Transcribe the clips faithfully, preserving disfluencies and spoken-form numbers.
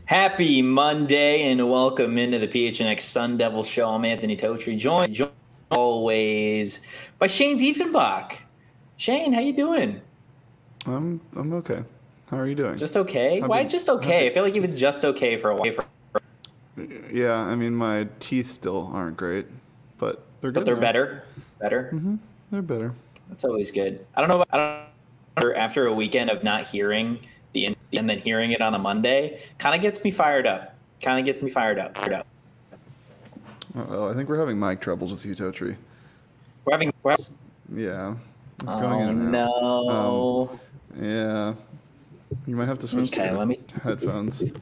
Happy Monday and welcome into the P H N X Sun Devil Show. I'm Anthony Totri, joined, joined always by Shane Diefenbach. Shane, how you doing? I'm I'm okay. How are you doing? Just okay? Happy, Why just okay? happy. I feel like you've been just okay for a while. Yeah, I mean my teeth still aren't great, but they're good. But they're now. better. Better. Mm-hmm. They're better. That's always good. I don't know. I don't know. After a weekend of not hearing the and then hearing it on a Monday, kind of gets me fired up. Kind of gets me fired up. Fired up. Oh, I think we're having mic troubles with you, Totri. We're having. We're having yeah, it's oh, going in and out. no. Um, yeah, you might have to switch okay, to let me... headphones. Uh,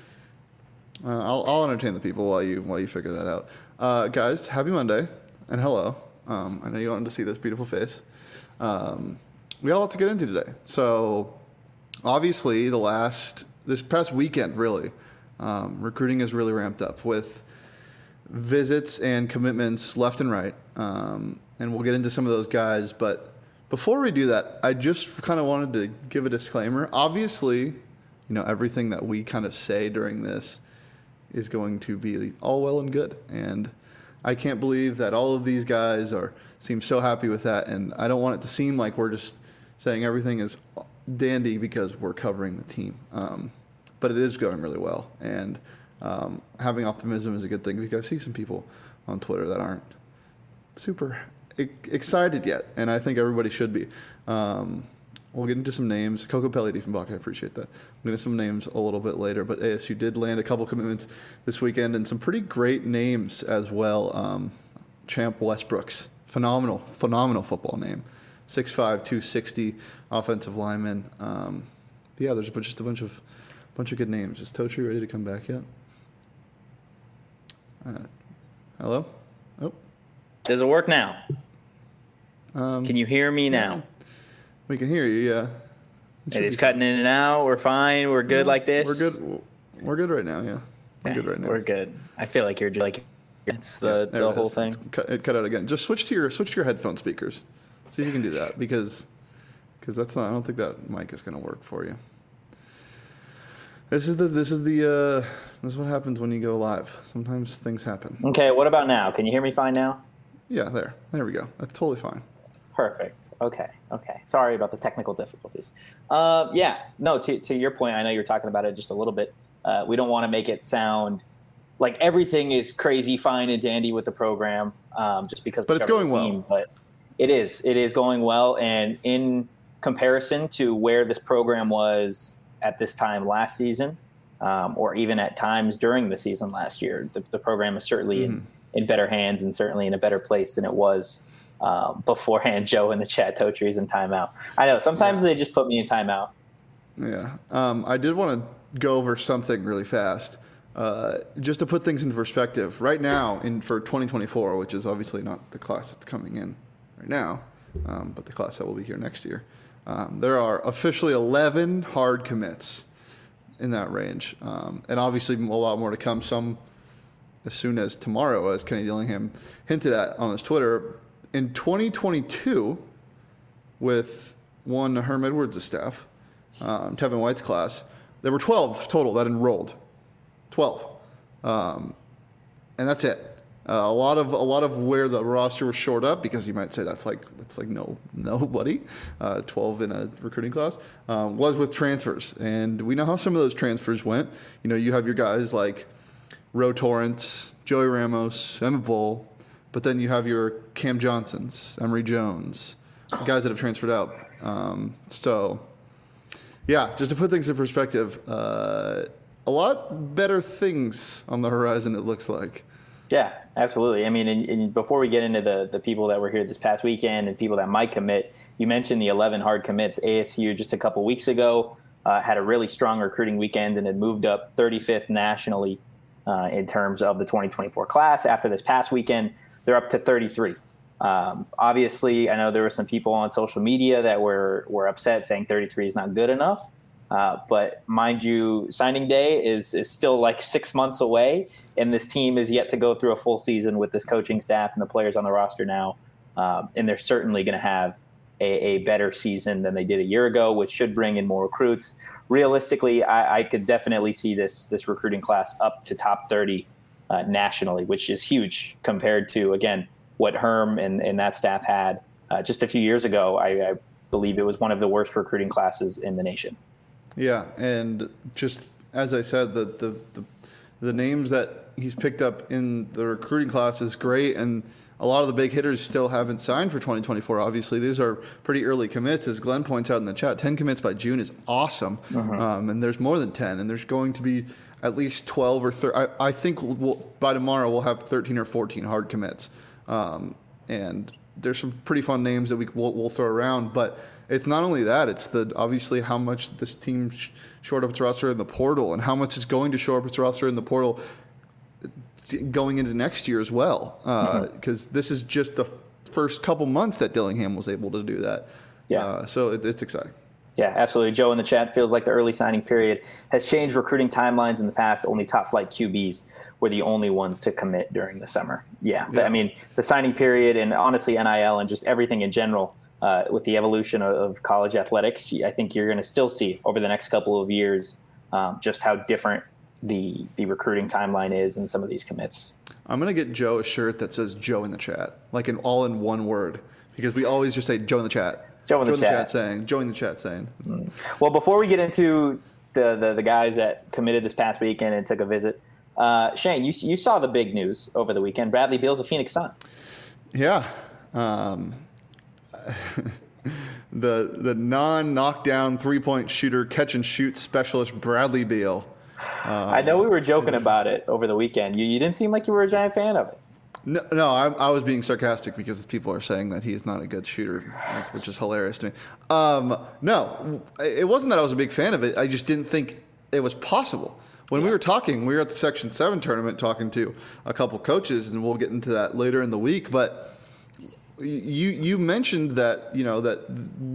I'll I'll entertain the people while you while you figure that out. Uh, guys, happy Monday and hello. Um, I know you wanted to see this beautiful face. Um, we got a lot to get into today. So obviously, the last this past weekend, really, um, recruiting has really ramped up with visits and commitments left and right. Um, and we'll get into some of those guys. But before we do that, I just kind of wanted to give a disclaimer. Obviously, you know, everything that we kind of say during this is going to be all well and good. And I can't believe that all of these guys are seem so happy with that. And I don't want it to seem like we're just saying everything is dandy because we're covering the team. Um, but it is going really well. And um, having optimism is a good thing because I see some people on Twitter that aren't super e- excited yet. And I think everybody should be. Um, We'll get into some names. Coco Pelli Diefenbach, I appreciate that. We'll get into some names a little bit later, but A S U did land a couple commitments this weekend and some pretty great names as well. Um, Champ Westbrooks, phenomenal, phenomenal football name. six five, two sixty, offensive lineman. Um, yeah, there's just a bunch of bunch of good names. Is Totri ready to come back yet? Uh, hello? Oh. Does it work now? Um, Can you hear me now? Yeah. We can hear you, yeah. It is cutting in and out. We're fine. We're good yeah, like this. We're good. We're good right now, yeah. We're okay, good right now. We're good. I feel like you're like it's the, yeah, the it whole is. thing. Cut, it cut out again. Just switch to your switch to your headphone speakers. See if you can do that because because that's not. I don't think that mic is going to work for you. This is the this is the uh, this is what happens when you go live. Sometimes things happen. Okay. What about now? Can you hear me fine now? Yeah, there. There we go. That's totally fine. Perfect. Okay. Okay. Sorry about the technical difficulties. Uh, yeah. No. To to your point, I know you're talking about it just a little bit. Uh, we don't want to make it sound like everything is crazy, fine, and dandy with the program, um, just because. But it's going well. Team. But it is. It is going well, and in comparison to where this program was at this time last season, um, or even at times during the season last year, the, the program is certainly mm-hmm. in, in better hands and certainly in a better place than it was. Um, beforehand, Joe in the chat, Totri's in timeout. I know sometimes yeah. they just put me in timeout. Yeah, um, I did want to go over something really fast, uh, just to put things into perspective. Right now, in for twenty twenty-four, which is obviously not the class that's coming in right now, um, but the class that will be here next year, um, there are officially eleven hard commits in that range, um, and obviously a lot more to come. Some as soon as tomorrow, as Kenny Dillingham hinted at on his Twitter. In twenty twenty-two, with one Herm Edwards' staff, um, Tevin White's class, there were twelve total that enrolled. twelve. Um, and that's it. Uh, a lot of a lot of where the roster was shored up, because you might say that's like that's like no nobody, uh, twelve in a recruiting class, um, was with transfers. And we know how some of those transfers went. You know, you have your guys like Ro Torrance, Joey Ramos, Emmett Bull, but then you have your Cam Johnsons, Emory Jones, guys that have transferred out. Um, so, yeah, just to put things in perspective, uh, a lot better things on the horizon, it looks like. Yeah, absolutely. I mean, and, and before we get into the, the people that were here this past weekend and people that might commit, you mentioned the eleven hard commits. A S U just a couple weeks ago uh, had a really strong recruiting weekend and had moved up thirty-fifth nationally uh, in terms of the twenty twenty-four class. After this past weekend, they're up to thirty-three. Um, obviously, I know there were some people on social media that were were upset saying thirty-three is not good enough. Uh, but mind you, signing day is is still like six months away, and this team is yet to go through a full season with this coaching staff and the players on the roster now. Um, and they're certainly going to have a, a better season than they did a year ago, which should bring in more recruits. Realistically, I, I could definitely see this this recruiting class up to top thirty uh, nationally, which is huge compared to, again, what Herm and, and that staff had uh, just a few years ago. I, I believe it was one of the worst recruiting classes in the nation. Yeah, and just as I said, the the the, the names that he's picked up in the recruiting class is great, and a lot of the big hitters still haven't signed for twenty twenty-four. Obviously, these are pretty early commits. As Glenn points out in the chat, ten commits by June is awesome. Uh-huh. Um, and there's more than ten, and there's going to be at least twelve or thirteen. I, I think we'll, we'll, by tomorrow we'll have thirteen or fourteen hard commits. Um, and there's some pretty fun names that we, we'll, we'll throw around. But it's not only that, it's the obviously how much this team sh- shored up its roster in the portal and how much is going to shore up its roster in the portal going into next year as well, because uh, mm-hmm. this is just the first couple months that Dillingham was able to do that. Yeah. Uh, so it, it's exciting. Yeah, absolutely. Joe in the chat feels like the early signing period has changed recruiting timelines in the past. Only top flight Q Bs were the only ones to commit during the summer. Yeah. yeah. I mean, the signing period and honestly N I L and just everything in general uh, with the evolution of, of college athletics, I think you're going to still see over the next couple of years um, just how different the the recruiting timeline is in some of these commits. I'm going to get Joe a shirt that says Joe in the chat, like in all in one word, because we always just say Joe in the chat. Joe in the, Joe in chat. the chat saying, Joe in the chat saying. Mm. Well, before we get into the, the, the guys that committed this past weekend and took a visit, uh, Shane, you you saw the big news over the weekend. Bradley Beal's a Phoenix Sun. Yeah. Um, the the non-knockdown three-point shooter, catch-and-shoot specialist Bradley Beal. Um, I know we were joking about it over the weekend. You you didn't seem like you were a giant fan of it. No, no, I, I was being sarcastic because people are saying that he's not a good shooter, which is hilarious to me. Um, no, it wasn't that I was a big fan of it. I just didn't think it was possible. When yeah. we were talking, we were at the Section seven tournament talking to a couple coaches, and we'll get into that later in the week. But you you mentioned that, you know, that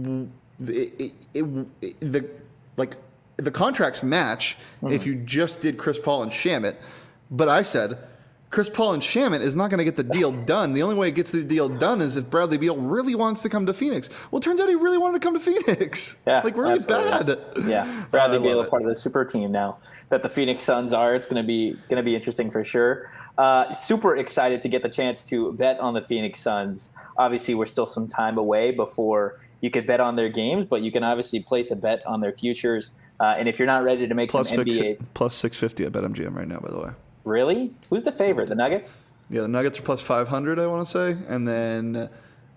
it, it, it, it, the like – the contracts match mm-hmm. if you just did Chris Paul and Shamet. But I said, Chris Paul and Shamet is not going to get the deal done. The only way it gets the deal done is if Bradley Beal really wants to come to Phoenix. Well, it turns out he really wanted to come to Phoenix. Yeah, like really absolutely. bad. Yeah, Bradley Beal is part of the super team now that the Phoenix Suns are. It's going to be going to be interesting for sure. Uh, super excited to get the chance to bet on the Phoenix Suns. Obviously, we're still some time away before you could bet on their games, but you can obviously place a bet on their futures. Uh, and if you're not ready to make plus some N B A... Six, plus six fifty at BetMGM right now, by the way. Really? Who's the favorite? The Nuggets? Yeah, the Nuggets are plus five hundred, I want to say. And then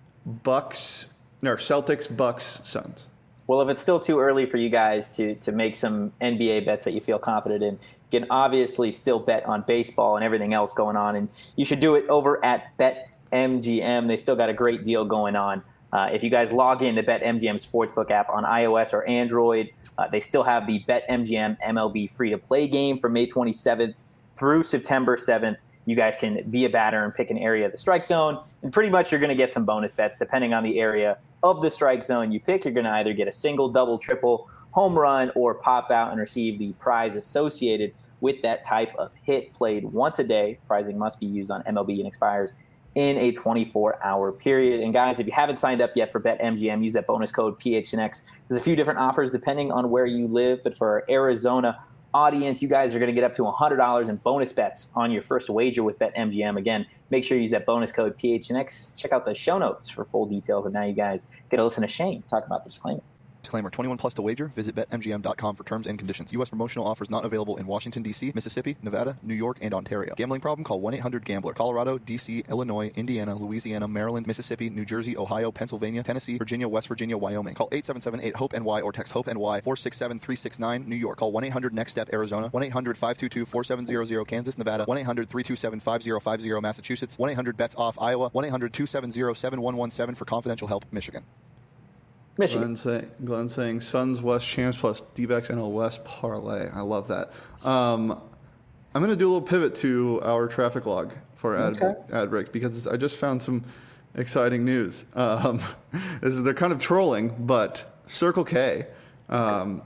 Bucks... No, Celtics, Bucks, Suns. Well, if it's still too early for you guys to, to make some N B A bets that you feel confident in, you can obviously still bet on baseball and everything else going on. And you should do it over at BetMGM. They still got a great deal going on. Uh, if you guys log in to BetMGM Sportsbook app on iOS or Android, Uh, they still have the BetMGM M L B free-to-play game from May twenty-seventh through September seventh. You guys can be a batter and pick an area of the strike zone, and pretty much you're going to get some bonus bets depending on the area of the strike zone you pick. You're going to either get a single, double, triple, home run, or pop out and receive the prize associated with that type of hit played once a day. Prizing must be used on M L B and expires in a twenty-four hour period. And guys, if you haven't signed up yet for BetMGM, use that bonus code P H N X. There's a few different offers depending on where you live, but for our Arizona audience, you guys are going to get up to one hundred dollars in bonus bets on your first wager with BetMGM. Again, make sure you use that bonus code P H N X. Check out the show notes for full details. And now you guys get to listen to Shane talk about the disclaimer. Disclaimer, twenty-one plus to wager. Visit Bet M G M dot com for terms and conditions. U S promotional offers not available in Washington, D C, Mississippi, Nevada, New York, and Ontario. Gambling problem? Call one eight hundred gambler. Colorado, D C, Illinois, Indiana, Louisiana, Maryland, Mississippi, New Jersey, Ohio, Pennsylvania, Tennessee, Virginia, West Virginia, Wyoming. Call eight seven seven eight hope N Y or text HOPE-NY four six seven three six nine. New York. Call one eight hundred next step Arizona. one eight hundred five two two four seven zero zero. Kansas, Nevada. one eight hundred three two seven five zero five zero. Massachusetts. one eight hundred bets off Iowa. one eight hundred two seven zero seven one one seven for confidential help. Michigan. Michigan. Glenn, say, Glenn saying Suns West champs plus D-backs N L West parlay. I love that. Um, I'm going to do a little pivot to our traffic log for ad, okay. ad break because I just found some exciting news. Um, this is they're kind of trolling, but Circle K. Um,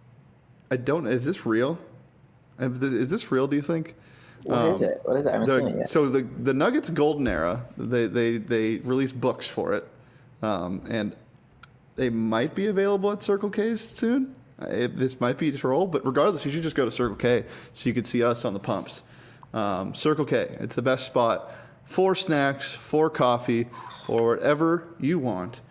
I don't. Is this real? Is this real? Do you think? What um, is it? What is it? I haven't the, seen it yet. So the the Nuggets golden era. They they they released books for it, um, and they might be available at Circle K's soon. It, this might be a troll, but regardless, you should just go to Circle K so you can see us on the pumps. Um, Circle K, it's the best spot for snacks, for coffee, for whatever you want.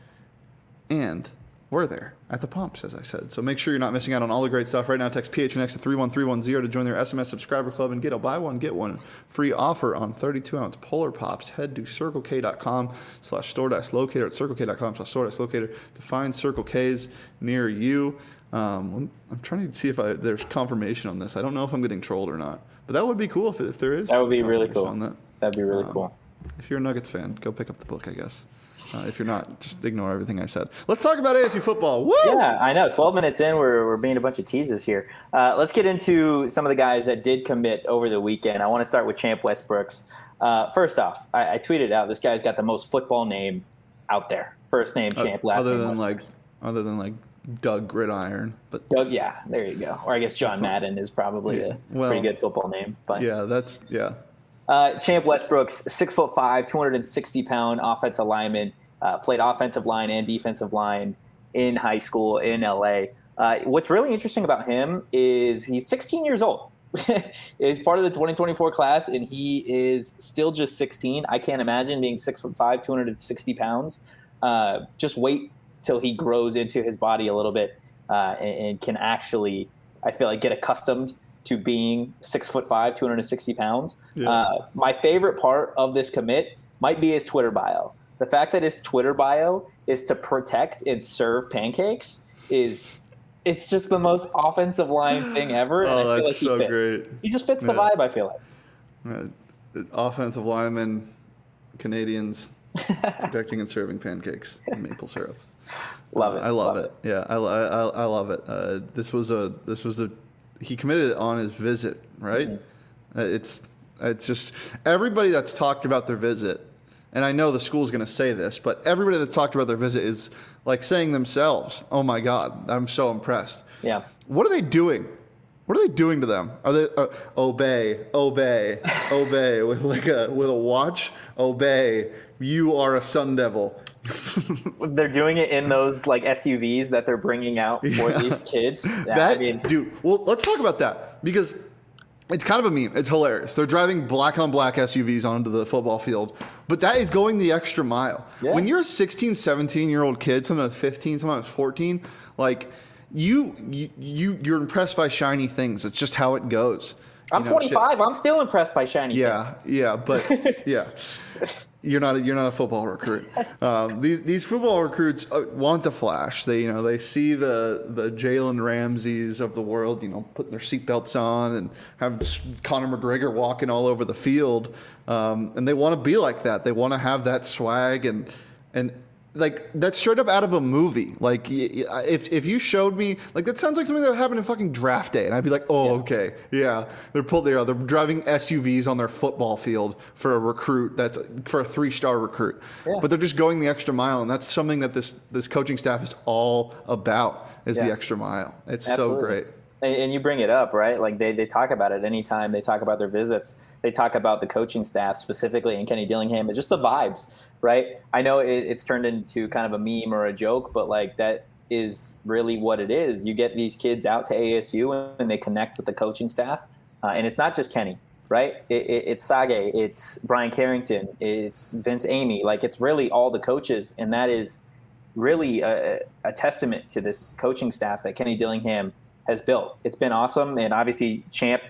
And we're there at the pumps, as I said. So make sure you're not missing out on all the great stuff. Right now, text P H N X to three one three one zero to join their S M S subscriber club and get a buy one, get one free offer on thirty-two ounce Polar Pops. Head to circlek.com slash store dash locator at circlek.com slash store dash locator to find Circle K's near you. Um, I'm, I'm trying to see if I, there's confirmation on this. I don't know if I'm getting trolled or not, but that would be cool if, if there is. That would be really cool. On that. That'd be really um, cool. If you're a Nuggets fan, go pick up the book, I guess. Uh, if you're not, just ignore everything I said. Let's talk about A S U football. Woo! Yeah, I know. twelve minutes in, we're, we're being a bunch of teases here. Uh, let's get into some of the guys that did commit over the weekend. I want to start with Champ Westbrooks. Uh, first off, I, I tweeted out, this guy's got the most football name out there. First name Champ, last other name than like, Westbrooks. Other than like Doug Gridiron. But Doug, yeah, there you go. Or I guess John Madden is probably yeah, a well, pretty good football name. But yeah, that's, yeah. Uh, Champ Westbrooks, six foot five, two hundred sixty pound offensive lineman. Uh, played offensive line and defensive line in high school in L A. Uh, what's really interesting about him is he's sixteen years old. He's part of the twenty twenty-four class, and he is still just sixteen. I can't imagine being six foot five, two hundred sixty pounds. Uh, just wait till he grows into his body a little bit uh, and, and can actually, I feel like, get accustomed to being six foot five, two hundred sixty pounds. Yeah. Uh, my favorite part of this commit might be his Twitter bio. The fact that his Twitter bio is to protect and serve pancakes is it's just the most offensive line thing ever. And oh, I feel that's like he so fits. great. He just fits the yeah. vibe, I feel like. Yeah. Offensive linemen, Canadians, protecting and serving pancakes and maple syrup. Love uh, it. I love, love it. it. Yeah, I, I, I love it. Uh, this was a this was a he committed on his visit, right? Mm-hmm. Uh, it's it's just everybody that's talked about their visit. And I know the school's going to say this, but everybody that's talked about their visit is like saying themselves, oh my God, I'm so impressed. Yeah. What are they doing? What are they doing to them? Are they uh, obey, obey, obey with like a with a watch? Obey. You are a Sun Devil. They're doing it in those like S U Vs that they're bringing out for yeah. these kids. Yeah, that I mean, dude. Well, let's talk about that because it's kind of a meme. It's hilarious. They're driving black on black S U Vs onto the football field, but that is going the extra mile. Yeah. When you're a sixteen, seventeen year old kid, sometimes fifteen, sometimes fourteen, like you, you, you you're impressed by shiny things. It's just how it goes. I'm you know, twenty-five. Shit. I'm still impressed by shiny yeah, things. Yeah, yeah, but yeah. You're not a, you're not a football recruit. Um, these these football recruits want the flash. They you know they see the the Jalen Ramseys of the world, you know, putting their seatbelts on and have Conor McGregor walking all over the field, um, and they want to be like that. They want to have that swag and and like that's straight up out of a movie. Like if if you showed me like that sounds like something that would happen in fucking draft day, and I'd be like, oh yeah. okay, yeah, they're pulled there. They're driving S U Vs on their football field for a recruit that's for a three star recruit, yeah. but they're just going the extra mile, and that's something that this this coaching staff is all about is yeah. the extra mile. It's Absolutely. so great. And you bring it up, right? Like they they talk about it anytime they talk about their visits. They talk about the coaching staff specifically and Kenny Dillingham, and just the vibes. Right. I know it, it's turned into kind of a meme or a joke, but like that is really what it is. You get these kids out to A S U and they connect with the coaching staff. Uh, and it's not just Kenny, right? It, it, it's Sage, it's Brian Carrington, it's Vince Amy. Like it's really all the coaches. And that is really a, a testament to this coaching staff that Kenny Dillingham has built. It's been awesome. And obviously Champ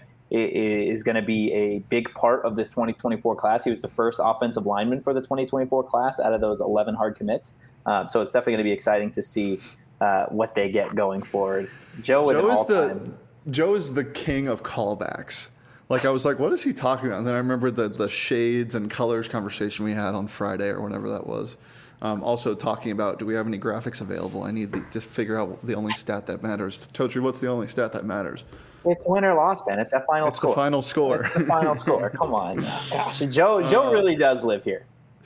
is going to be a big part of this twenty twenty-four class. He was the first offensive lineman for the twenty twenty-four class out of those eleven hard commits. Um, so it's definitely going to be exciting to see uh, what they get going forward. Joe, Joe is the Joe is the king of callbacks. Like I was like, what is he talking about? And then I remember the the shades and colors conversation we had on Friday or whenever that was. Um, also talking about, do we have any graphics available? I need to figure out the only stat that matters. Totri, what's the only stat that matters? It's win or loss, man. It's that final it's score. It's the final score. It's the final score. Come on. Gosh, Joe Joe uh, really does live here.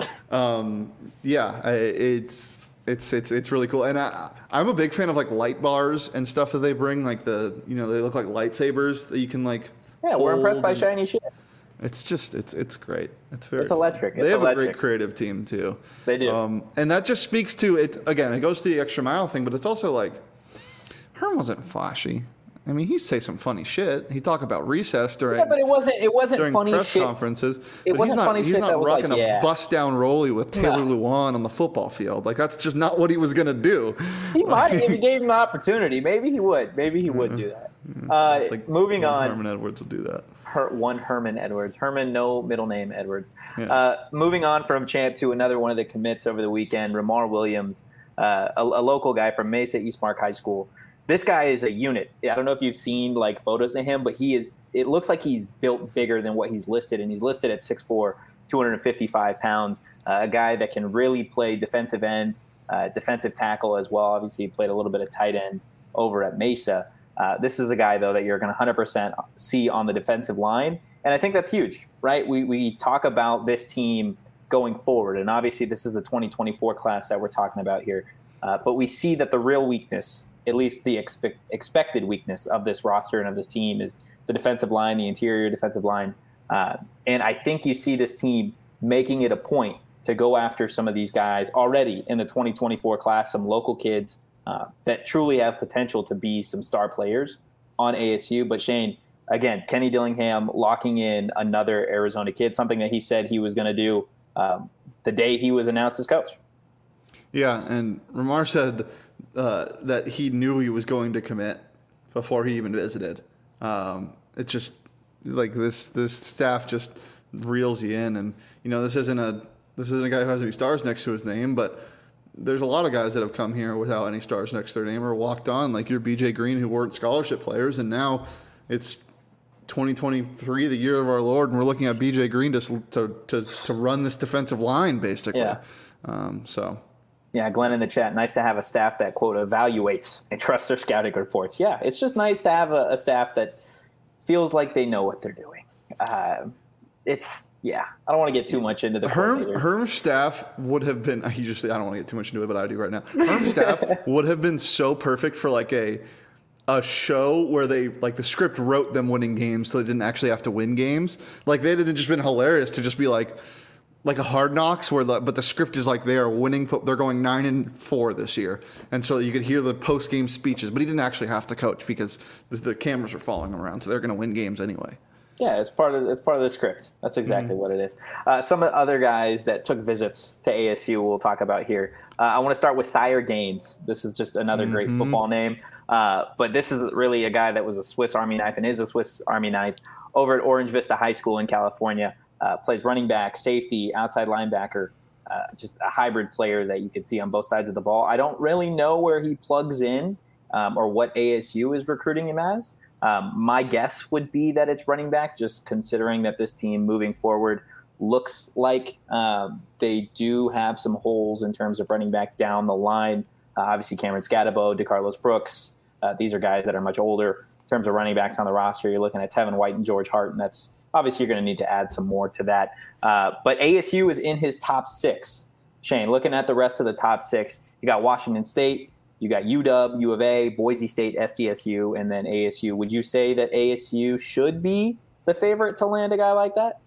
Um, yeah, I, it's it's it's it's really cool. And I, I'm a big fan of like light bars and stuff that they bring. Like the, you know, they look like lightsabers that you can like Yeah, we're impressed by and, shiny shit. It's just it's it's great. It's very It's electric. They It's have electric. a great creative team too. They do. Um, and that just speaks to it again. It goes to the extra mile thing, but it's also like Herm wasn't flashy. I mean, he'd say some funny shit. He'd talk about recess during Yeah, but it wasn't. It wasn't during funny press shit. conferences. It but wasn't he's not, funny he's shit not that was like, rocking yeah. a bust down rollie with Taylor No. Lewan on the football field. Like that's just not what he was gonna do. He might if he gave him the opportunity. Maybe he would. Maybe he would do that. Uh, Like, moving on. Herman Edwards will do that. Her, one Herman Edwards. Herman, no middle name Edwards. Yeah. Uh, moving on from Chant to another one of the commits over the weekend, Ramar Williams, uh, a, a local guy from Mesa Eastmark High School. This guy is a unit. I don't know if you've seen like photos of him, but he is. It looks like he's built bigger than what he's listed, and he's listed at six foot four, two hundred fifty-five pounds. Uh, a guy that can really play defensive end, uh, defensive tackle as well. Obviously, he played a little bit of tight end over at Mesa. Uh, this is a guy, though, that you're going to one hundred percent see on the defensive line, and I think that's huge, right? We we talk about this team going forward, and obviously this is the twenty twenty-four class that we're talking about here, uh, but we see that the real weakness, at least the expect, expected weakness of this roster and of this team, is the defensive line, the interior defensive line, uh, and I think you see this team making it a point to go after some of these guys already in the twenty twenty-four class, some local kids Uh, that truly have potential to be some star players on A S U. But Shane, again, Kenny Dillingham locking in another Arizona kid, something that he said he was going to do um, the day he was announced as coach. Yeah, and Ramar said uh, that he knew he was going to commit before he even visited. Um, it just like this this staff just reels you in, and you know this isn't a this isn't a guy who has any stars next to his name, but there's a lot of guys that have come here without any stars next to their name or walked on, like your B J Green, who weren't scholarship players, and now it's twenty twenty-three, the year of our Lord, and we're looking at B J Green to to to, to run this defensive line, basically. Yeah. Um, so. Yeah, Glenn in the chat. Nice to have a staff that, quote, evaluates and trusts their scouting reports. Yeah, it's just nice to have a, a staff that feels like they know what they're doing. Uh, it's yeah. I don't want to get too much into the Herm Herm's staff would have been. You just I don't want to get too much into it, but I do right now. Herm's staff would have been so perfect for like a a show where they like the script wrote them winning games, so they didn't actually have to win games. Like they'd have just been hilarious to just be like like a Hard Knocks, where the but the script is like they are winning. They're going nine and four this year, and so you could hear the post game speeches. But he didn't actually have to coach because the, the cameras are following him around, so they're going to win games anyway. Yeah, it's part of it's part of the script. That's exactly mm-hmm. what it is. Uh, some of the other guys that took visits to A S U we'll talk about here. Uh, I want to start with Sire Gaines. This is just another mm-hmm. great football name. Uh, but this is really a guy that was a Swiss Army knife and is a Swiss Army knife over at Orange Vista High School in California. Uh, plays running back, safety, outside linebacker. Uh, just a hybrid player that you can see on both sides of the ball. I don't really know where he plugs in um, or what A S U is recruiting him as. Um, my guess would be that it's running back, just considering that this team moving forward looks like um, they do have some holes in terms of running back down the line. Uh, obviously, Cameron Scatabo, DeCarlos Brooks, uh, these are guys that are much older in terms of running backs on the roster. You're looking at Tevin White and George Hart, and that's obviously you're going to need to add some more to that. Uh, but A S U is in his top six. Shane, looking at the rest of the top six, you got Washington State, you got U W, U of A, Boise State, S D S U, and then A S U. Would you say that A S U should be the favorite to land a guy like that?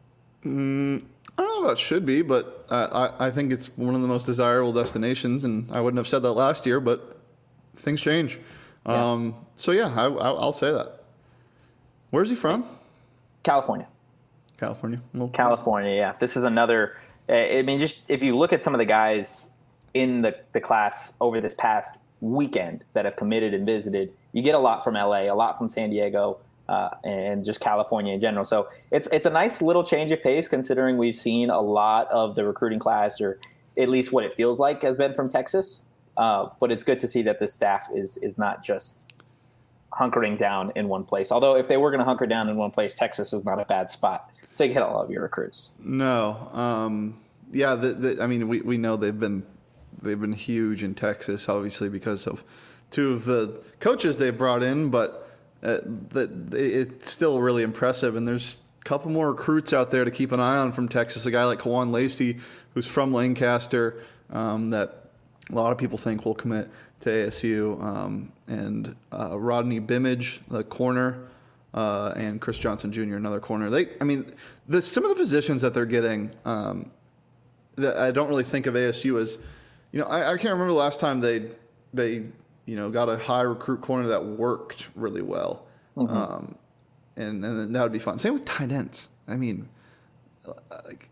Mm, I don't know about should be, but uh, I, I think it's one of the most desirable destinations, and I wouldn't have said that last year, but things change. Yeah. Um, so, yeah, I, I, I'll say that. Where's he from? California. California. Well, California, yeah. This is another – I mean, just if you look at some of the guys in the, the class over this past weekend that have committed and visited, you get a lot from L A, a lot from San Diego, uh, and just California in general. So it's it's a nice little change of pace considering we've seen a lot of the recruiting class, or at least what it feels like has been from Texas. Uh, but it's good to see that this staff is is not just hunkering down in one place. Although if they were going to hunker down in one place, Texas is not a bad spot to get a lot of your recruits. No. Um, yeah, the, the, I mean, we, we know they've been they've been huge in Texas, obviously, because of two of the coaches they've brought in, but uh, the, it's still really impressive. And there's a couple more recruits out there to keep an eye on from Texas. A guy like Kawan Lacey, who's from Lancaster, um, that a lot of people think will commit to A S U, um, and uh, Rodney Bimage, the corner uh, and Chris Johnson Junior, another corner. They, I mean, the, some of the positions that they're getting, um, that I don't really think of A S U as, you know, I, I can't remember the last time they they you know got a high recruit corner that worked really well, mm-hmm. um, and and that would be fun. Same with tight ends. I mean, like,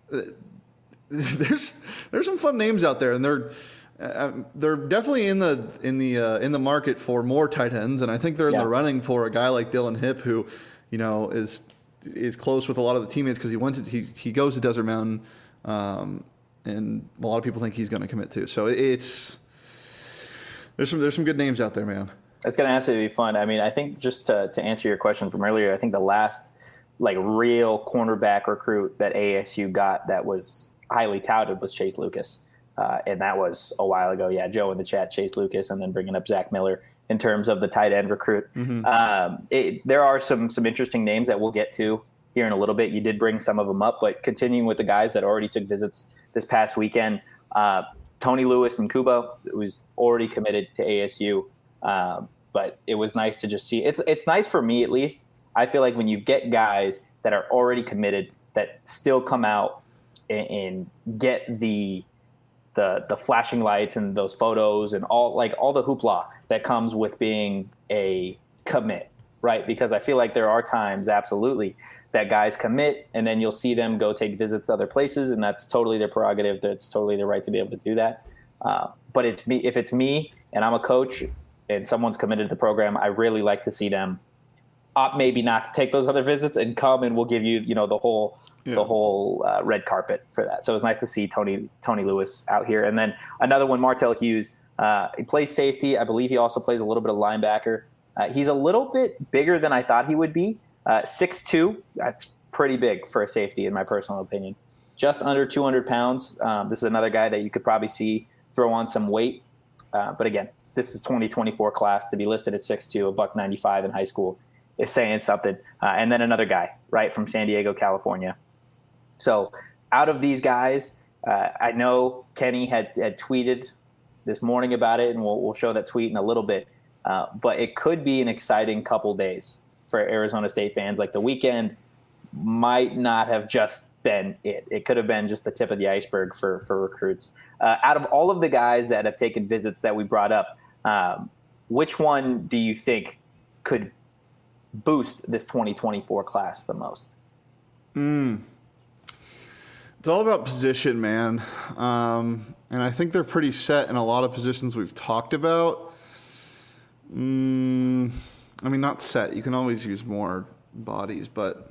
there's there's some fun names out there, and they're. Uh, they're definitely in the in the uh, in the market for more tight ends, and I think they're in yeah. the running for a guy like Dylan Hipp, who, you know, is is close with a lot of the teammates because he went to he he goes to Desert Mountain, um, and a lot of people think he's going to commit too. So it's there's some there's some good names out there, man. It's going to absolutely be fun. I mean, I think just to to answer your question from earlier, I think the last like real cornerback recruit that A S U got that was highly touted was Chase Lucas. Uh, and that was a while ago. Yeah, Joe in the chat, Chase Lucas, and then bringing up Zach Miller in terms of the tight end recruit. Mm-hmm. Um, it, there are some some interesting names that we'll get to here in a little bit. You did bring some of them up, but continuing with the guys that already took visits this past weekend, uh, Tony Lewis and Kubo, who's already committed to A S U. Um, but it was nice to just see. It's it's nice for me at least. I feel like when you get guys that are already committed that still come out and, and get the the the flashing lights and those photos and all like all the hoopla that comes with being a commit, right? Because I feel like there are times absolutely that guys commit and then you'll see them go take visits to other places, and that's totally their prerogative. That's totally their right to be able to do that. Uh, but it's me if it's me and I'm a coach and someone's committed to the program, I really like to see them opt maybe not to take those other visits and come and we'll give you, you know, the whole Yeah. the whole uh, red carpet for that. So it was nice to see Tony Tony Lewis out here. And then another one, Martell Hughes. Uh, he plays safety. I believe he also plays a little bit of linebacker. Uh, he's a little bit bigger than I thought he would be. Uh, six two, that's pretty big for a safety in my personal opinion. Just under two hundred pounds. Um, this is another guy that you could probably see throw on some weight. Uh, but again, this is twenty twenty-four class. To be listed at six two, a buck ninety-five in high school is saying something. Uh, and then another guy, right, from San Diego, California. So out of these guys, uh, I know Kenny had, had tweeted this morning about it, and we'll, we'll show that tweet in a little bit. Uh, but it could be an exciting couple days for Arizona State fans. Like the weekend might not have just been it. It could have been just the tip of the iceberg for, for recruits. Uh, out of all of the guys that have taken visits that we brought up, um, which one do you think could boost this twenty twenty-four class the most? Hmm. It's all about position, man. Um, and I think they're pretty set in a lot of positions we've talked about. Mm, I mean, not set. You can always use more bodies, but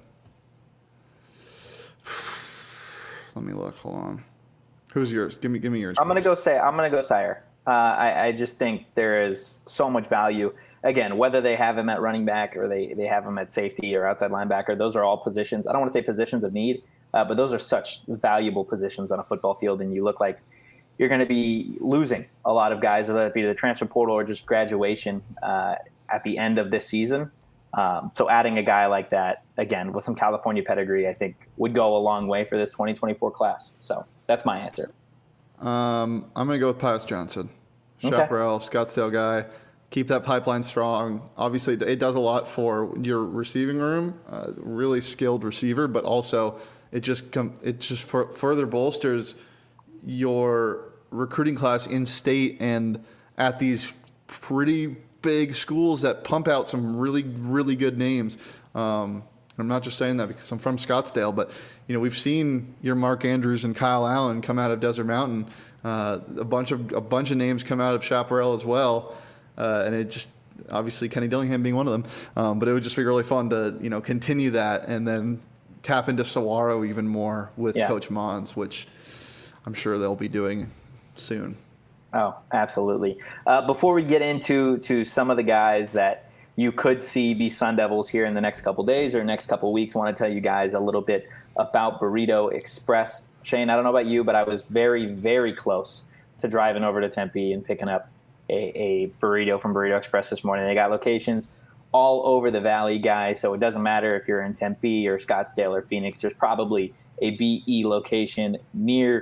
let me look. Hold on. Who's yours? Give me, give me yours. I'm gonna go say. I'm gonna go Sire. Uh, I, I just think there is so much value. Again, whether they have him at running back or they they have him at safety or outside linebacker, those are all positions. I don't want to say positions of need. Uh, but those are such valuable positions on a football field, and you look like you're going to be losing a lot of guys, whether it be the transfer portal or just graduation uh, at the end of this season. Um, so adding a guy like that, again, with some California pedigree, I think would go a long way for this twenty twenty-four class. So that's my answer. Um, I'm going to go with Pius Johnson. Okay. Chaparral, Scottsdale guy. Keep that pipeline strong. Obviously, it does a lot for your receiving room. Uh, really skilled receiver, but also – It just com- it just for- further bolsters your recruiting class in state and at these pretty big schools that pump out some really, really good names. Um, I'm not just saying that because I'm from Scottsdale, but you know we've seen your Mark Andrews and Kyle Allen come out of Desert Mountain. Uh, a bunch of a bunch of names come out of Chaparral as well, uh, and it just obviously Kenny Dillingham being one of them. Um, but it would just be really fun to you know continue that and then tap into Saguaro even more with yeah. Coach Mons, which I'm sure they'll be doing soon. Oh, absolutely. Uh, before we get into to some of the guys that you could see be Sun Devils here in the next couple days or next couple weeks, I want to tell you guys a little bit about Burrito Express. Shane, I don't know about you, but I was very, very close to driving over to Tempe and picking up a, a burrito from Burrito Express this morning. They got locations all over the valley, guys, so it doesn't matter if you're in Tempe or Scottsdale or Phoenix. There's probably a B E location near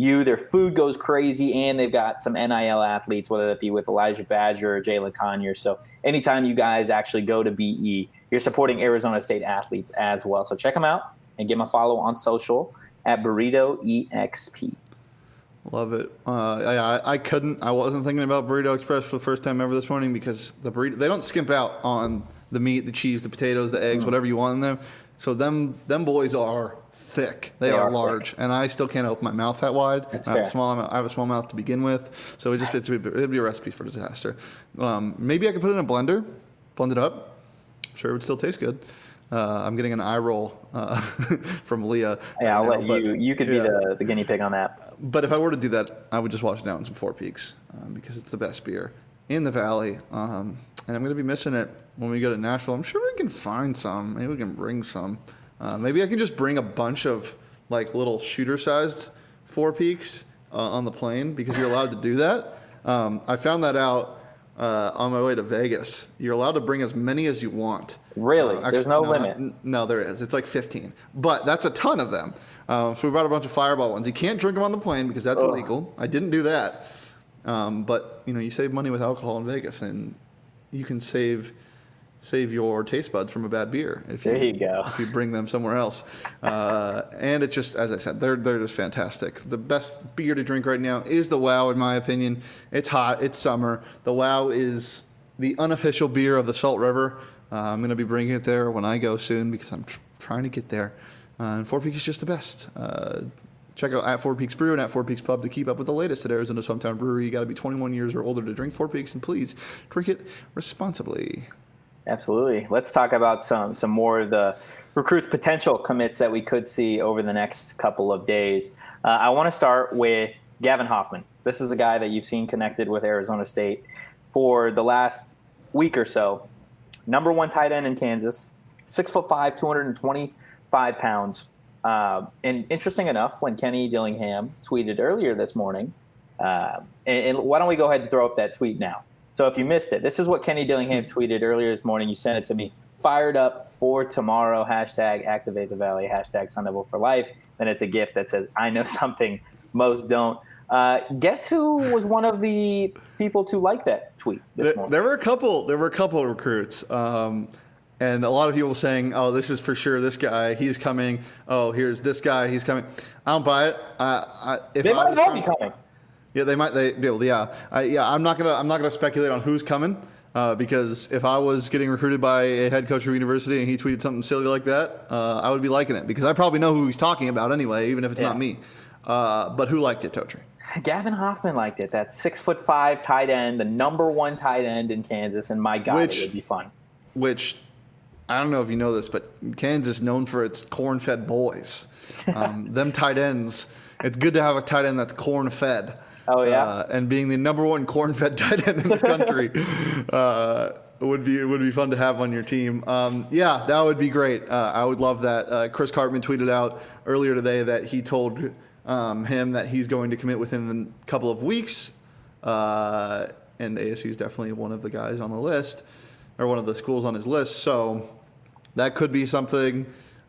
U. Their food goes crazy, and they've got some N I L athletes, whether that be with Elijah Badger or Jalen Conyers. So anytime you guys actually go to B E, you're supporting Arizona State athletes as well. So check them out and give them a follow on social at Burrito E X P. Love it. Uh, I, I couldn't. I wasn't thinking about Burrito Express for the first time ever this morning because the burrito, they don't skimp out on the meat, the cheese, the potatoes, the eggs, mm. whatever you want in them. So them them boys are thick. They, they are, are large, thick. And I still can't open my mouth that wide. That's I fair. have a small. I have a small mouth to begin with, so it just it's, it'd be a recipe for disaster. Um, maybe I could put it in a blender, blend it up. I'm sure it would still taste good. Uh, I'm getting an eye roll uh, from Leah. Yeah, I'll right let now, but, you. You could yeah. be the, the guinea pig on that. But if I were to do that, I would just wash it down in some Four Peaks um, because it's the best beer in the Valley. Um, and I'm going to be missing it when we go to Nashville. I'm sure we can find some. Maybe we can bring some. Uh, maybe I can just bring a bunch of like little shooter-sized Four Peaks uh, on the plane because you're allowed to do that. Um, I found that out uh, on my way to Vegas. You're allowed to bring as many as you want. Really? Uh, actually, There's no, no limit? Not, no, there is. It's like fifteen. But that's a ton of them. Um, so we brought a bunch of Fireball ones. You can't drink them on the plane because that's Ugh. illegal. I didn't do that. Um, but, you know, you save money with alcohol in Vegas, and you can save save your taste buds from a bad beer if you, there you go. if you bring them somewhere else. Uh, and it's just, as I said, they're they're just fantastic. The best beer to drink right now is the Wow, in my opinion. It's hot. It's summer. The Wow is the unofficial beer of the Salt River. Uh, I'm going to be bringing it there when I go soon because I'm tr- trying to get there. Uh, and Four Peaks is just the best. Uh, check out at Four Peaks Brew and at Four Peaks Pub to keep up with the latest at Arizona's hometown brewery. You got to be twenty-one years or older to drink Four Peaks, and please drink it responsibly. Absolutely. Let's talk about some some more of the recruits potential commits that we could see over the next couple of days. Uh, I want to start with Gavin Hoffman. This is a guy that you've seen connected with Arizona State for the last week or so. Number one tight end in Kansas, six foot five, two hundred twenty-five pounds. Uh, and interesting enough, when Kenny Dillingham tweeted earlier this morning, uh, and, and why don't we go ahead and throw up that tweet now? So if you missed it, this is what Kenny Dillingham tweeted earlier this morning. You sent it to me. Fired up for tomorrow. Hashtag activate the Valley. Hashtag Sun Devil for life. And it's a gift that says, I know something most don't. Uh, guess who was one of the people to like that tweet this There, morning? there were a couple. There were a couple of recruits, um, and a lot of people saying, "Oh, this is for sure. This guy, he's coming. Oh, here's this guy, he's coming." I don't buy it. I, I, if they I might was all trying- be coming. Yeah, they might. They, they'll. Yeah, I, yeah. I'm not gonna. I'm not gonna speculate on who's coming uh, because if I was getting recruited by a head coach of a university and he tweeted something silly like that, uh, I would be liking it because I probably know who he's talking about anyway, even if it's Yeah. not me. Uh, but who liked it, Totri? Gavin Hoffman liked it. That six foot five tight end, the number one tight end in Kansas, and my God, Which- it would be fun. Which I don't know if you know this, but Kansas is known for its corn-fed boys. Um, them tight ends. It's good to have a tight end that's corn-fed. Oh yeah, uh, and being the number one corn-fed tight end in the country uh, would be would be fun to have on your team. Um, yeah, that would be great. Uh, I would love that. Uh, Chris Cartman tweeted out earlier today that he told um, him that he's going to commit within a couple of weeks, uh, and A S U is definitely one of the guys on the list, or one of the schools on his list. So that could be something.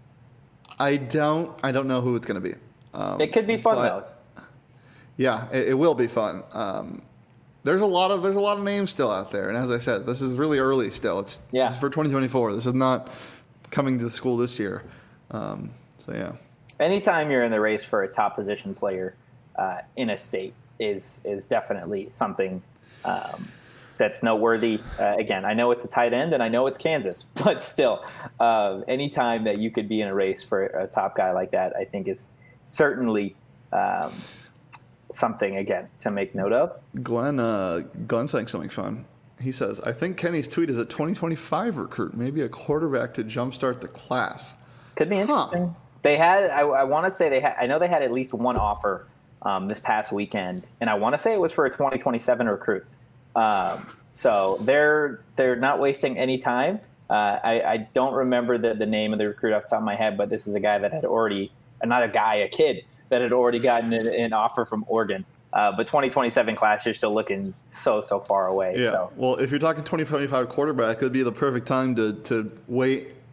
I don't I don't know who it's going to be. Um, it could be fun but, though. Yeah, it, it will be fun. Um, there's a lot of there's a lot of names still out there, and as I said, this is really early still. It's, Yeah. it's for twenty twenty-four. This is not coming to the school this year. Um, so yeah, Anytime you're in the race for a top position player uh, in a state is is definitely something um, that's noteworthy. Uh, again, I know it's a tight end and I know it's Kansas, but still, uh, anytime that you could be in a race for a top guy like that, I think is certainly um, something, again, to make note of. Glenn uh, Glenn saying something fun. He says, "I think Kenny's tweet is a twenty twenty-five recruit, maybe a quarterback to jumpstart the class." Could be interesting. Huh. They had, I, I want to say they had, I know they had at least one offer um, this past weekend, and I want to say it was for a twenty twenty-seven recruit. Um, so they're they're not wasting any time. Uh, I, I don't remember the, the name of the recruit off the top of my head, but this is a guy that had already, not a guy, a kid that had already gotten an, an offer from Oregon. Uh, but twenty twenty-seven class, you're still looking so, so far away. Yeah. So. Well, if you're talking twenty twenty-five quarterback, it'd be the perfect time to to wait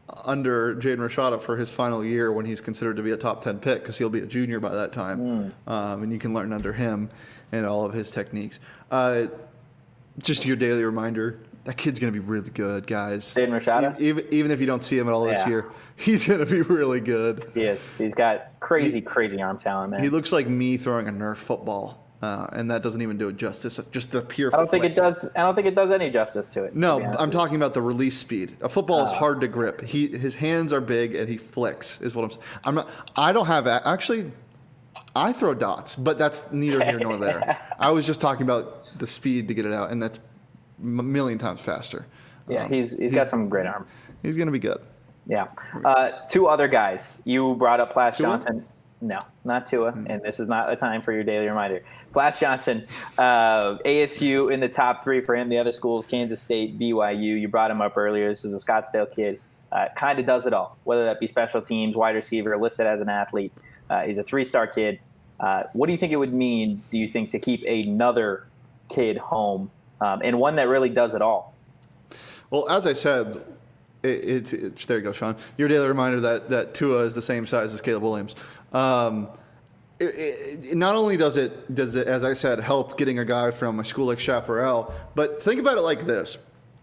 under Jaden Rashada for his final year when he's considered to be a top ten pick because he'll be a junior by that time. Mm. Um, and you can learn under him and all of his techniques. Uh, just your daily reminder, that kid's going to be really good, guys. Jaden Rashada? Even, even if you don't see him at all this yeah. year, he's going to be really good. He is. He's got crazy, he, crazy arm talent, man. He looks like me throwing a Nerf football. Uh, and that doesn't even do it justice. Just the pure. I don't flick. think it does. I don't think it does any justice to it. No, to I'm talking about the release speed. A football is uh, hard to grip. He his hands are big and he flicks. Is what I'm. I'm not. I don't have actually. I throw dots, but that's neither here nor there. I was just talking about the speed to get it out, and that's a million times faster. Yeah, um, he's, he's he's got some great arm. He's gonna be good. Yeah. Uh, two other guys. You brought up Flash Tua? Johnson. No, not Tua, mm-hmm. and this is not a time for your daily reminder. Flash Johnson, uh, A S U in the top three for him. The other schools, Kansas State, B Y U. You brought him up earlier. This is a Scottsdale kid. Uh, kind of does it all, whether that be special teams, wide receiver, listed as an athlete. Uh, he's a three-star kid. Uh, what do you think it would mean, do you think, to keep another kid home, um, and one that really does it all? Well, as I said, it, it's, it's there you go, Sean. Your daily reminder that, that Tua is the same size as Caleb Williams. Um, it, it, not only does it, does it, as I said, help getting a guy from a school like Chaparral, but think about it like this.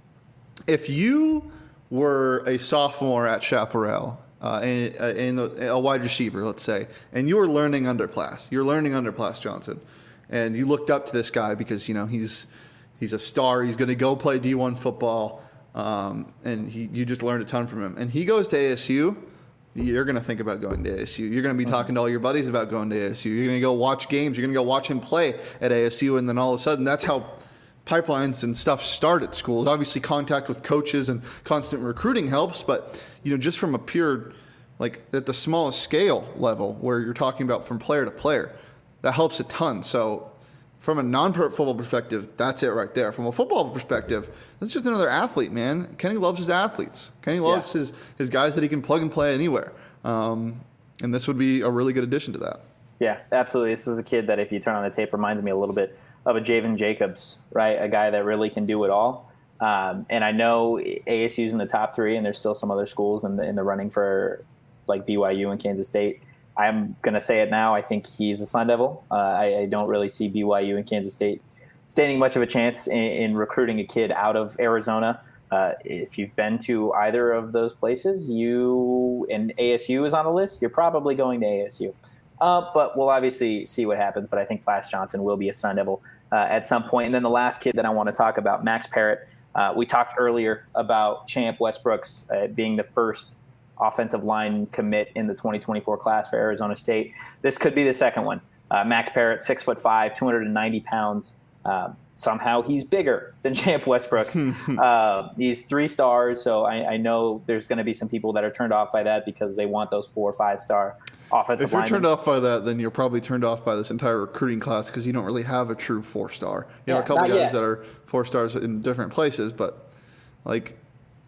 If you were a sophomore at Chaparral, uh, and, and a wide receiver, let's say, and you were learning under Plas, you're learning under Plas Johnson, and you looked up to this guy because, you know, he's, he's a star, he's going to go play D one football, um, and he, you just learned a ton from him. And he goes to A S U, you're going to think about going to A S U. You're going to be talking to all your buddies about going to A S U. You're going to go watch games. You're going to go watch him play at A S U. And then all of a sudden, that's how pipelines and stuff start at schools. Obviously, contact with coaches and constant recruiting helps. But, you know, just from a pure, like at the smallest scale level where you're talking about from player to player, that helps a ton. So from a non-football perspective, that's it right there. From a football perspective, that's just another athlete, man. Kenny loves his athletes. Kenny loves yeah. his, his guys that he can plug and play anywhere. Um, and this would be a really good addition to that. Yeah, absolutely. This is a kid that, if you turn on the tape, reminds me a little bit of a Javen Jacobs, right? A guy that really can do it all. Um, and I know A S U's in the top three, and there's still some other schools in the, in the running for like B Y U and Kansas State. I'm going to say it now. I think he's a Sun Devil. Uh, I, I don't really see B Y U and Kansas State standing much of a chance in, in recruiting a kid out of Arizona. Uh, if you've been to either of those places, you and A S U is on the list, you're probably going to A S U. Uh, but we'll obviously see what happens. But I think Flash Johnson will be a Sun Devil uh, at some point. And then the last kid that I want to talk about, Max Parrott. Uh, we talked earlier about Champ Westbrooks uh, being the first offensive line commit in the twenty twenty-four class for Arizona State. This could be the second one. Uh, Max Parrott, six foot five, two hundred ninety pounds. Uh, somehow he's bigger than Champ Westbrooks. uh, he's three stars, so I, I know there's going to be some people that are turned off by that because they want those four or five star offensive If you're linemen. turned off by that, then you're probably turned off by this entire recruiting class because you don't really have a true four star. You yeah, have a couple guys yet. that are four stars in different places, but like,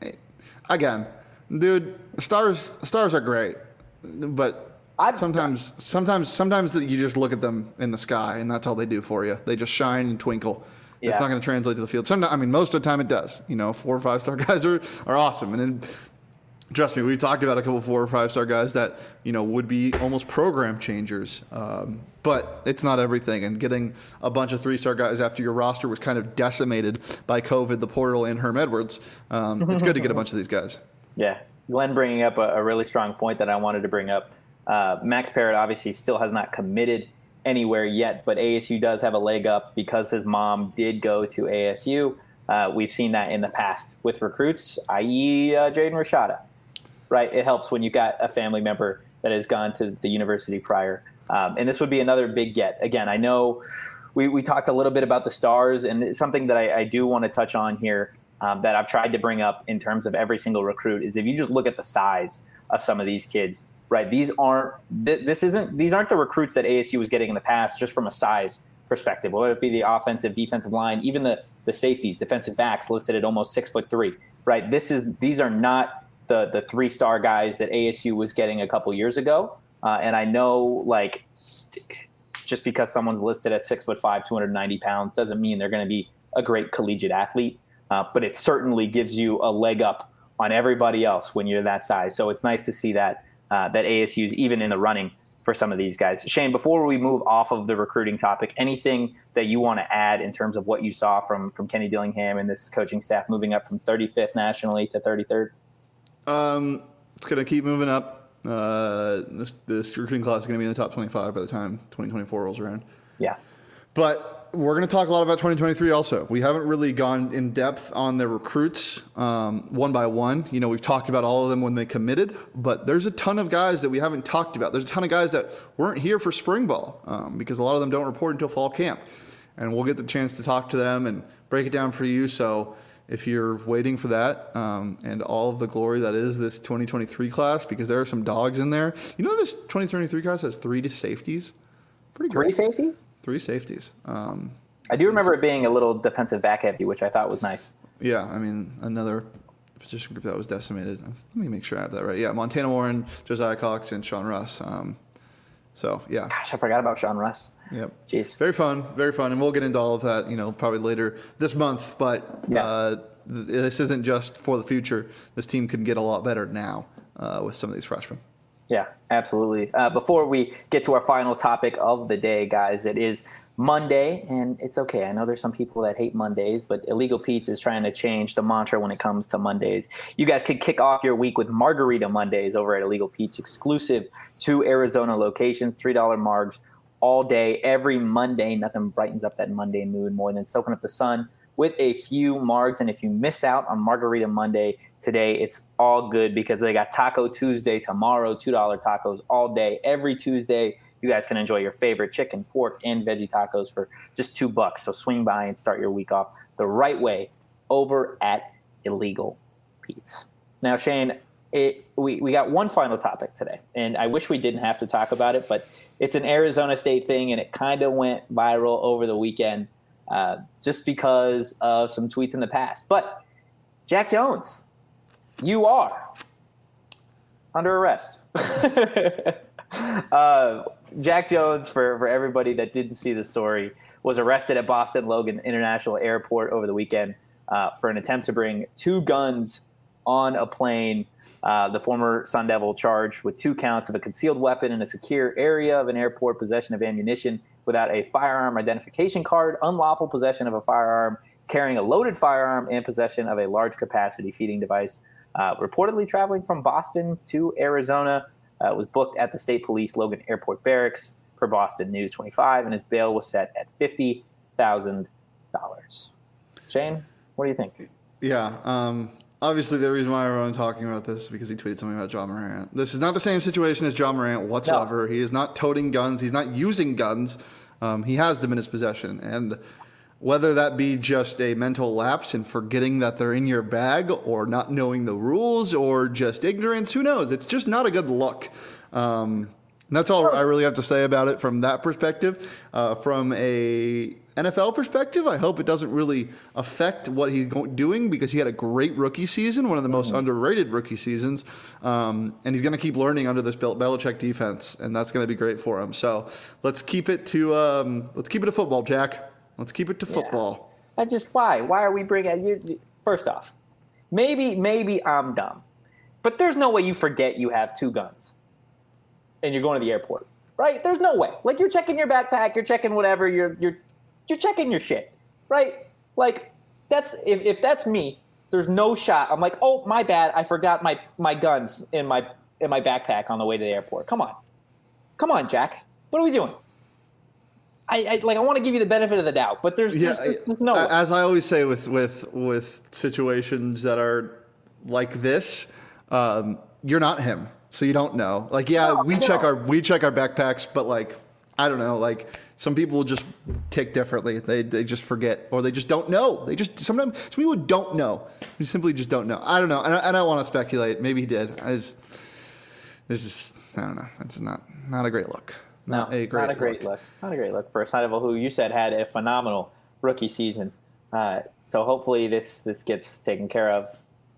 again, dude, stars stars are great, but I've, sometimes sometimes sometimes you just look at them in the sky and that's all they do for you. They just shine and twinkle. Yeah. It's not going to translate to the field. Sometimes, I mean, most of the time it does. You know, four or five star guys are, are awesome, and then trust me, we've talked about a couple four or five star guys that, you know, would be almost program changers. Um, but it's not everything. And getting a bunch of three star guys after your roster was kind of decimated by COVID, the portal, and Herm Edwards. Um, it's good to get a bunch of these guys. Yeah. Glenn bringing up a, a really strong point that I wanted to bring up. Uh, Max Parrott obviously still has not committed anywhere yet, but A S U does have a leg up because his mom did go to A S U. Uh, we've seen that in the past with recruits, that is. Uh, Jaden Rashada. Right, it helps when you got a family member that has gone to the university prior. Um, and this would be another big get. Again, I know we, we talked a little bit about the stars, and it's something that I, I do want to touch on here um, that I've tried to bring up in terms of every single recruit is if you just look at the size of some of these kids, right? These aren't th- this isn't these aren't the recruits that A S U was getting in the past just from a size perspective, whether it be the offensive, defensive line, even the the safeties, defensive backs listed at almost six foot three, right? This is these are not the the three-star guys that A S U was getting a couple years ago. Uh, and I know, like, just because someone's listed at six foot five, two hundred ninety pounds doesn't mean they're going to be a great collegiate athlete. Uh, but it certainly gives you a leg up on everybody else when you're that size. So it's nice to see that uh, that A S U's even in the running for some of these guys. Shane, before we move off of the recruiting topic, anything that you want to add in terms of what you saw from from Kenny Dillingham and this coaching staff moving up from thirty-fifth nationally to thirty-third? Um, it's going to keep moving up. Uh, this, this recruiting class is going to be in the top twenty-five by the time twenty twenty-four rolls around. Yeah. But we're going to talk a lot about twenty twenty-three also. We haven't really gone in depth on the recruits um, one by one. You know, we've talked about all of them when they committed, but there's a ton of guys that we haven't talked about. There's a ton of guys that weren't here for spring ball um, because a lot of them don't report until fall camp. And we'll get the chance to talk to them and break it down for you. So if you're waiting for that um, and all of the glory that is this twenty twenty-three class, because there are some dogs in there. You know, this twenty twenty-three class has three safeties. Pretty Three great. safeties? Three safeties. Um, I do remember it being a little defensive back heavy, which I thought was nice. Yeah, I mean, another position group that was decimated. Let me make sure I have that right. Yeah, Montana Warren, Josiah Cox, and Sean Russ. Um, so, yeah. Gosh, I forgot about Sean Russ. Yep. Jeez. Very fun, very fun. And we'll get into all of that, you know, probably later this month. But Yeah. uh, th- this isn't just for the future. This team can get a lot better now uh, with some of these freshmen. Yeah, absolutely. Uh, before we get to our final topic of the day, guys, it is Monday, and it's okay. I know there's some people that hate Mondays, but Illegal Pete's is trying to change the mantra when it comes to Mondays. You guys could kick off your week with Margarita Mondays over at Illegal Pete's, exclusive to Arizona locations, three dollar margs all day, every Monday. Nothing brightens up that Monday mood more than soaking up the sun with a few margs. And if you miss out on Margarita Monday today, it's all good because they got Taco Tuesday tomorrow, two dollar tacos all day. Every Tuesday, you guys can enjoy your favorite chicken, pork, and veggie tacos for just two bucks. So swing by and start your week off the right way over at Illegal Pete's. Now, Shane, it, we, we got one final topic today, and I wish we didn't have to talk about it, but it's an Arizona State thing, and it kind of went viral over the weekend uh, just because of some tweets in the past. But Jack Jones, you are under arrest. uh, Jack Jones, for, for everybody that didn't see the story, was arrested at Boston Logan International Airport over the weekend uh, for an attempt to bring two guns on a plane. Uh, the former Sun Devil charged with two counts of a concealed weapon in a secure area of an airport, possession of ammunition without a firearm identification card, unlawful possession of a firearm, carrying a loaded firearm, and possession of a large capacity feeding device. Uh, reportedly traveling from Boston to Arizona. Uh, was booked at the State Police Logan Airport Barracks per Boston News twenty-five, and his bail was set at fifty thousand dollars. Shane, what do you think? Yeah, um, obviously the reason why everyone's talking about this is because he tweeted something about John Morant. This is not the same situation as John Morant whatsoever. No. He is not toting guns. He's not using guns. Um, he has them in his possession. And whether that be just a mental lapse and forgetting that they're in your bag or not knowing the rules or just ignorance, who knows? It's just not a good look. Um, and that's all I really have to say about it from that perspective. Uh, from a N F L perspective, I hope it doesn't really affect what he's doing because he had a great rookie season, one of the most mm-hmm. underrated rookie seasons. Um, and he's going to keep learning under this Bel- Belichick defense, and that's going to be great for him. So let's keep it to um, let's keep it to football, Jack. Let's keep it to football. Yeah. I just why? Why are we bringing you? First off, maybe maybe I'm dumb, but there's no way you forget you have two guns, and you're going to the airport, right? There's no way. Like you're checking your backpack, you're checking whatever, you're you're you're checking your shit, right? Like that's if if that's me, there's no shot. I'm like, oh my bad, I forgot my my guns in my in my backpack on the way to the airport. Come on, come on, Jack. What are we doing? I, I like. I want to give you the benefit of the doubt, but there's, yeah, there's, there's no. As I always say with with with situations that are like this, um, you're not him, so you don't know. Like, yeah, no, we check our we check our backpacks, but like, I don't know. Like, some people will just tick differently. They they just forget, or they just don't know. They just sometimes some people don't know. They simply just don't know. I don't know, and I, I don't want to speculate. Maybe he did. I just, this is I don't know. It's not not a great look. Not no, a great not a great look. look. Not a great look for a Sun Devil who you said had a phenomenal rookie season. Uh, so hopefully this this gets taken care of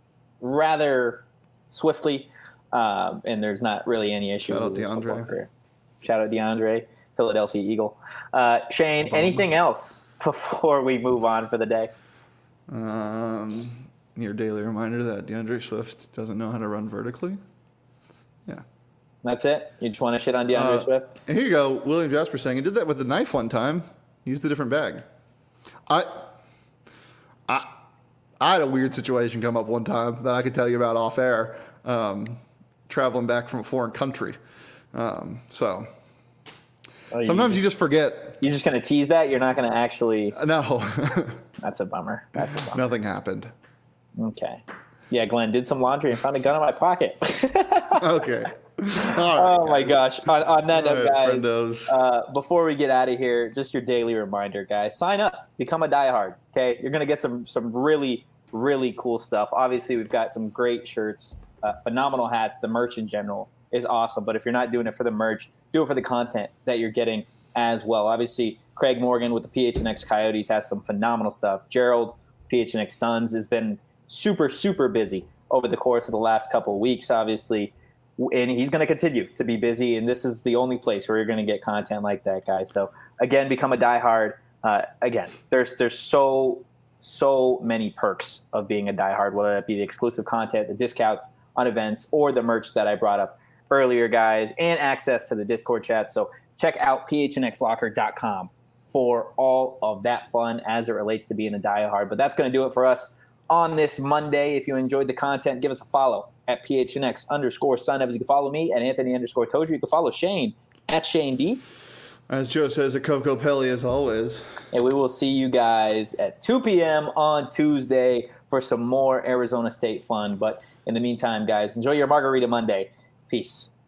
rather swiftly, um, and there's not really any issue. Shout out with his football DeAndre. career. Shout out DeAndre, Philadelphia Eagle. Uh, Shane, anything else before we move on for the day? Um, your daily reminder that DeAndre Swift doesn't know how to run vertically. Yeah. That's it? You just want to shit on DeAndre Uh, Swift? And here you go. William Jasper saying he did that with the knife one time. He used a different bag. I, I, I had a weird situation come up one time that I could tell you about off air. Um, traveling back from a foreign country. Um, so Oh, sometimes you, you just forget. You're just going to tease that? You're not going to actually... No. That's a bummer. That's a bummer. Nothing happened. Okay. Yeah, Glenn did some laundry and found a gun in my pocket. Okay. All right, oh, my guys. gosh. On, on that All note, right, guys, friendos. uh, before we get out of here, just your daily reminder, guys. Sign up. Become a diehard, okay? You're going to get some some really, really cool stuff. Obviously, we've got some great shirts, uh, phenomenal hats. The merch in general is awesome. But if you're not doing it for the merch, do it for the content that you're getting as well. Obviously, Craig Morgan with the P H N X Coyotes has some phenomenal stuff. Gerald, P H N X Suns, has been super, super busy over the course of the last couple of weeks, obviously. And he's going to continue to be busy. And this is the only place where you're going to get content like that, guys. So, again, become a diehard. Uh, again, there's there's so, so many perks of being a diehard, whether that be the exclusive content, the discounts on events, or the merch that I brought up earlier, guys, and access to the Discord chat. So check out P H N X locker dot com for all of that fun as it relates to being a diehard. But that's going to do it for us on this Monday. If you enjoyed the content, give us a follow at P H N X underscore Sun Evans. You can follow me at Anthony underscore Tozier. You can follow Shane at Shane Beef. As Joe says, a Coco Pelli as always. And we will see you guys at two p.m. on Tuesday for some more Arizona State fun. But in the meantime, guys, enjoy your Margarita Monday. Peace.